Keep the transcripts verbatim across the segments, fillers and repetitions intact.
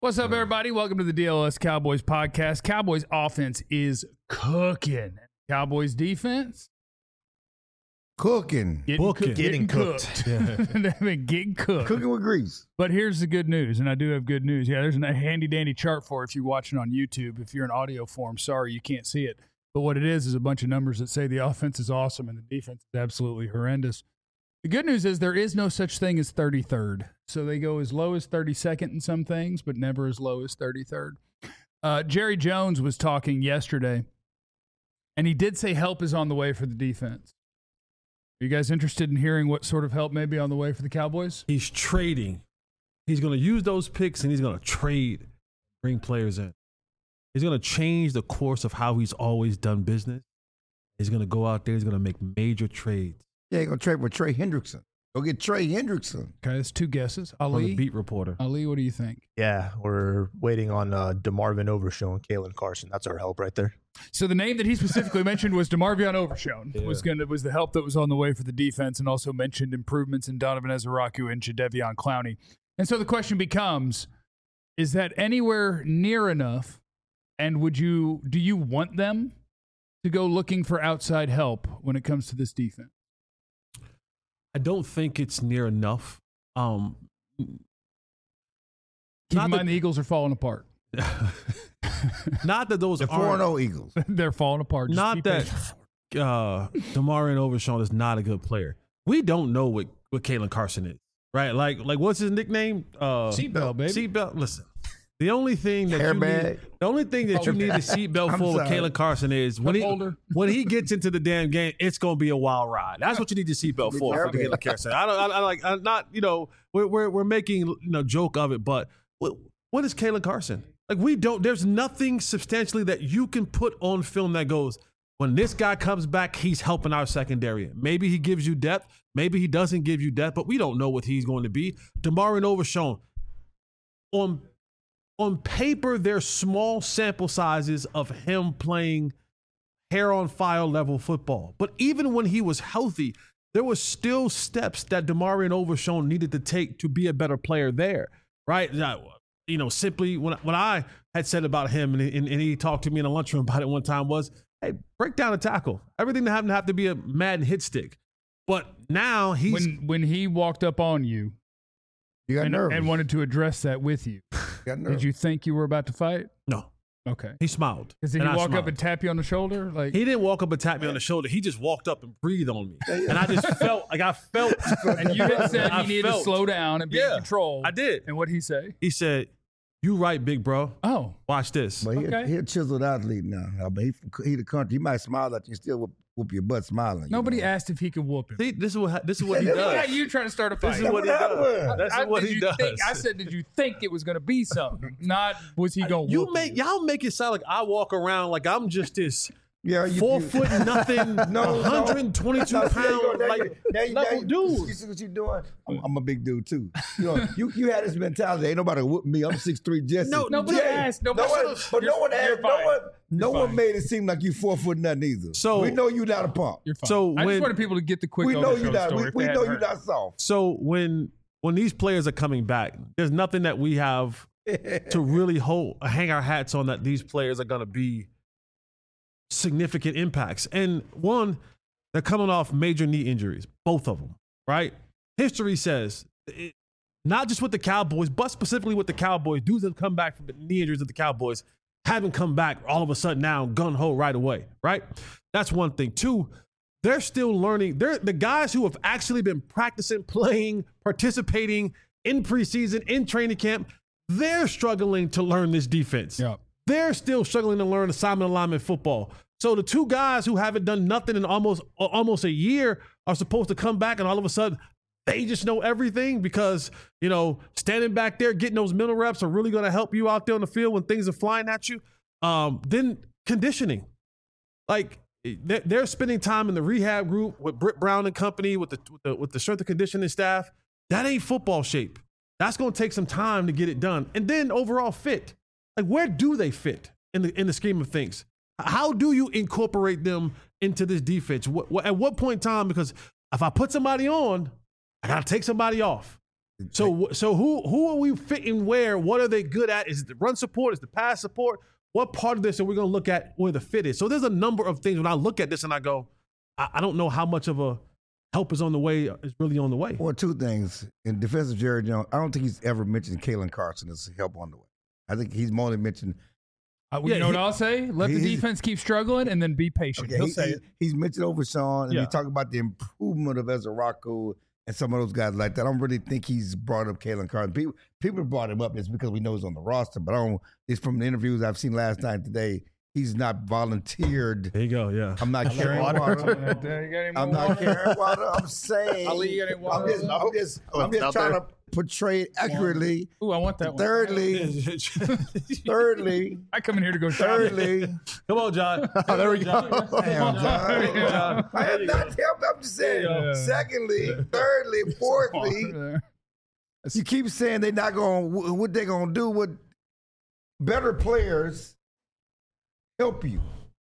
What's up, everybody? Welcome to the D L S Cowboys podcast. Cowboys offense is cooking. Cowboys defense cooking, getting, Booking. cook, getting, Getting cooked. cooked. They've been getting cooked. cooking with grease. But here's the good news, and I do have good news. Yeah, there's a handy dandy chart for if you're watching on YouTube. If you're in audio form, sorry you can't see it. But what it is is a bunch of numbers that say the offense is awesome and the defense is absolutely horrendous. The good news is there is no such thing as thirty-third. So they go as low as thirty-second in some things, but never as low as thirty-third. Uh, Jerry Jones was talking yesterday, and he did say help is on the way for the defense. Are you guys interested in hearing what sort of help may be on the way for the Cowboys? He's trading. He's going to use those picks, and he's going to trade, bring players in. He's going to change the course of how he's always done business. He's going to go out there. He's going to make major trades. Yeah, you're going to trade with Trey Hendrickson. Go get Trey Hendrickson. Okay, that's two guesses. On Ali, the beat reporter. Ali, what do you think? Yeah, we're waiting on uh, DeMarvin Overshown and Kalen Carson. That's our help right there. So the name that he specifically mentioned was DeMarvion Overshown. Yeah. Was gonna was the help that was on the way for the defense, and also mentioned improvements in Donovan Ezeraku and Jadeveon Clowney. And so the question becomes: is that anywhere near enough? And would you do you want them to go looking for outside help when it comes to this defense? I don't think it's near enough. Um, Keep Not in that- mind the Eagles are falling apart. not that those The four aren't. and oh Eagles. They're falling apart. Just Not keep that patient. uh, Damarian Overshown is not a good player. We don't know what, what Kalen Carson is, right? Like, like what's his nickname? Uh, Seatbelt, baby. Seatbelt. Listen, the only thing that you Airbag. need, the only thing that you need a seatbelt I'm for with sorry. Kalen Carson is when Cup he holder. when he gets into the damn game, it's gonna be a wild ride. That's what you need your seatbelt for. For the Airbag. Kalen Carson. I don't. I, I like. I'm not. You know, we're we're we're making you know joke of it, but what, what is Kalen Carson? Like we don't. There's nothing substantially that you can put on film that goes. When this guy comes back, he's helping our secondary. Maybe he gives you depth. Maybe he doesn't give you depth, but we don't know what he's going to be. DeMarvin Overshown, on, on paper, there's small sample sizes of him playing hair on fire level football. But even when he was healthy, there were still steps that DeMarvin Overshown needed to take to be a better player there, right? You know, simply when, when I had said about him, and, and, and he talked to me in a lunchroom about it one time, was, hey, break down a tackle. Everything doesn't have to be a Madden hit stick. But now he's when when he walked up on you You got and, nervous. and wanted to address that with you, You got nervous. did you think you were about to fight? no, Okay. he smiled. Because did And he I walk up smiled. and tap you on the shoulder? Like He didn't walk up and tap me on the shoulder. He just walked up and breathed on me, and I just felt like I felt. and you had said I he needed to felt- slow down and be in Yeah, control. I did. And what'd he say? He said, "You right, big bro. Oh, Watch this." But he, Okay. he a chiseled athlete now. I mean, he, from- he the country. He might smile at you and still whoop, whoop your butt smiling. you nobody know? asked if he could whoop him. See, this is what this is what he Yeah, Look does. at you trying to start a fight. This is what he That's what does. happened. That's I- what did he you does. think- I said, did you think it was going to be something? Not was he going to You whoop make you? y'all make it sound like I walk around like I'm just this Yeah, you, four you, foot nothing, No, one hundred twenty-two no. Now, see, there you go. pound Now like you- now you- level now you- dude. You see what you doing? I'm, I'm a big dude too. You know, you you had this mentality. Ain't nobody whoop me. I'm six three Jesse. No, Nobody Yeah. asked. No Nobody one, but You're- no one you're asked. No fine. one, no You're one fine. made it seem like you four foot nothing either. So- we know you not a pump. You're fine. So I when- just wanted people to get the quick We know you Overshown not. story We, if we they know hadn't you heard. not soft. So when when these players are coming back, there's nothing that we have to really hold hang our hats on that these players are going to be significant impacts. And one, they're coming off major knee injuries, both of them, right? History says, it, not just with the Cowboys, but specifically with the Cowboys, dudes that have come back from the knee injuries of the Cowboys haven't come back all of a sudden now gun-ho right away, right? That's one thing. Two, they're still learning. They're the guys who have actually been practicing, playing, participating in preseason, in training camp, they're struggling to learn this defense. Yeah. They're still struggling to learn assignment alignment football. So the two guys who haven't done nothing in almost almost a year are supposed to come back, and all of a sudden they just know everything because, you know, standing back there, getting those middle reps are really going to help you out there on the field when things are flying at you. Um, then conditioning. Like, they're, they're spending time in the rehab group with Britt Brown and company, with the, with the, with the strength and conditioning staff. That ain't football shape. That's going to take some time to get it done. And then overall fit. Like, where do they fit in the in the scheme of things? How do you incorporate them into this defense? What, what, at what point in time? Because if I put somebody on, I got to take somebody off. So so who who are we fitting where? What are they good at? Is it the run support? Is the pass support? What part of this are we going to look at where the fit is? So there's a number of things when I look at this and I go, I, I don't know how much of a help is on the way, is really on the way. Well, two things. In defense of Jerry Jones, I don't think he's ever mentioned Kalen Carson as help on the way. I think he's more than mentioned. Uh, you Yeah, know he- what I'll say? Let the he's- defense keep struggling and then be patient. Okay, He'll he- say he- it. he's mentioned Overshawn, and Yeah. he talked about the improvement of Ezra Rocco and some of those guys like that. I don't really think he's brought up Kalen Carson. People people brought him up just because we know he's on the roster, but I don't. It's from the interviews I've seen last night today. He's not volunteered. There you go, yeah. I'm not carrying water. water. I'm not carrying water. I'm saying. Ali, you got any water I'm just, I'm just, Oh, I'm it's just out trying there. to portray it accurately. Ooh, I want that one. Thirdly, thirdly, I come in here to go shopping. thirdly. Come on, John. Oh, there we go. Damn, John. Yeah. I have not helped. I'm just saying. Yeah. Secondly, thirdly, fourthly, There. you keep saying they're not going. to What they going to do? What better players help you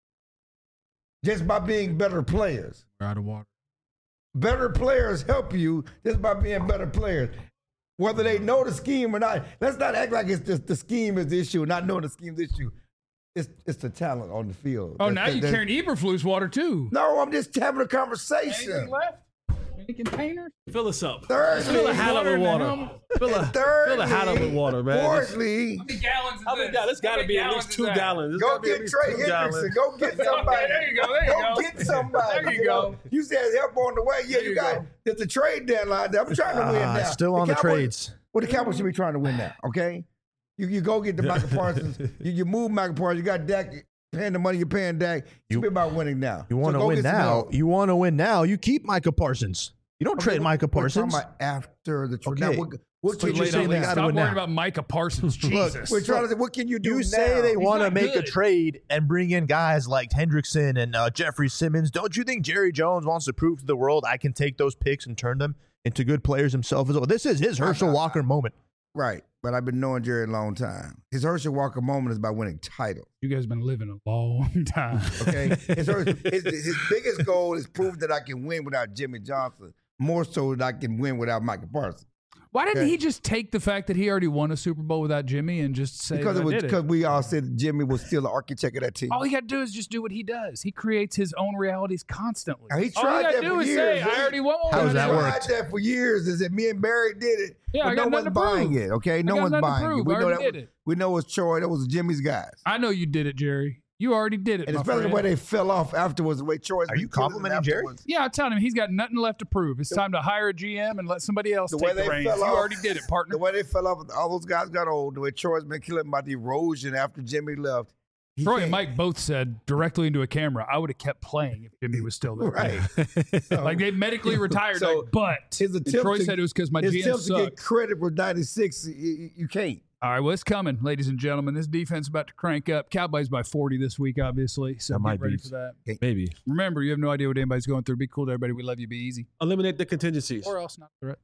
just by being better players? We're out of water. Better players help you just by being better players. Whether they know the scheme or not. Let's not act like it's just the scheme is the issue, not knowing the scheme is the issue. It's it's the talent on the field. Oh, That's- now that- you're that's- carrying Eberflus water too. No, I'm just having a Anything conversation. left? Any containers? Fill us up. Thirdly, Fill a hat up with water in the water. helmet. Fill a, thirdly, fill a hat up with water, man. Fourthly, How many gallons is How many this? gallons? It's got to be at least two gallons. It's go gotta be at get least Trey two Hendrickson. gallons. Go get somebody. There you go. There you Go go. get somebody. There you know? go. You said help on the way. Yeah, There you, you got go. there's a trade deadline. I'm trying to win Ah, now. still on the Cowboys- trades. Well, the Cowboys should be trying to win now. Okay, you you go get the Michael Parsons. You, you move Michael Parsons. You got Dak paying the money you're paying Dak. You be about winning now. You So want to go win get some now. help. You want to win now. You keep Micah Parsons. You don't Okay, trade Micah we're talking Parsons. about after the trade. Okay. Now, what, what So can you're you saying do they now? gotta Stop win worrying now. about Micah Parsons. Jesus. We're trying to say, what can you do You now? say they want to not make a good. trade and bring in guys like Hendrickson and uh, Jeffrey Simmons. Don't you think Jerry Jones wants to prove to the world I can take those picks and turn them into good players himself as well? This is his Herschel Walker moment. Right, but I've been knowing Jerry a long time. His Herschel Walker moment is by winning titles. You guys have been living a long time. Okay, his, his, his biggest goal is prove that I can win without Jimmy Johnson, more so that I can win without Michael Parsons. Why didn't Okay. he just take the fact that he already won a Super Bowl without Jimmy and just say Because that it was I did because it? we all said Jimmy was still the architect of that team. All he got to do is just do what he does. He creates his own realities constantly. Now, he All tried you gotta that do for is years. say, I already won one. How's He that tried worked? that for years. Is that me and Barry did it? Yeah, but I got no one's nothing to buying prove. it. Okay, no got one's nothing to buying prove. it. We I know already that. did Was, it. we know it's Troy. That was Jimmy's guys. I know you did it, Jerry. You already did it, And my especially the friend. way they fell off afterwards, the way Troy's Are been you killing them complimenting Jerry? afterwards. Yeah, I'm telling him he's got nothing left to prove. It's time to hire a G M and let somebody else The way take the they reins. fell You off- already did it, partner. The way they fell off, all those guys got old. The way Troy's been killing about the erosion after Jimmy left. He Troy can't- and Mike both said directly into a camera, I would have kept playing if Jimmy was still there. Right. Like they medically retired. So, like, but his and attempt Troy to- said it was because my His G M attempts to get sucks. credit for ninety-six, you, you can't. All right, well, it's coming, ladies and gentlemen. This defense is about to crank up. Cowboys by forty this week, obviously. So That get might ready be- for that. Maybe. Remember, you have no idea what anybody's going through. Be cool to everybody. We love you. Be easy. Eliminate the contingencies. Or else not. Threat.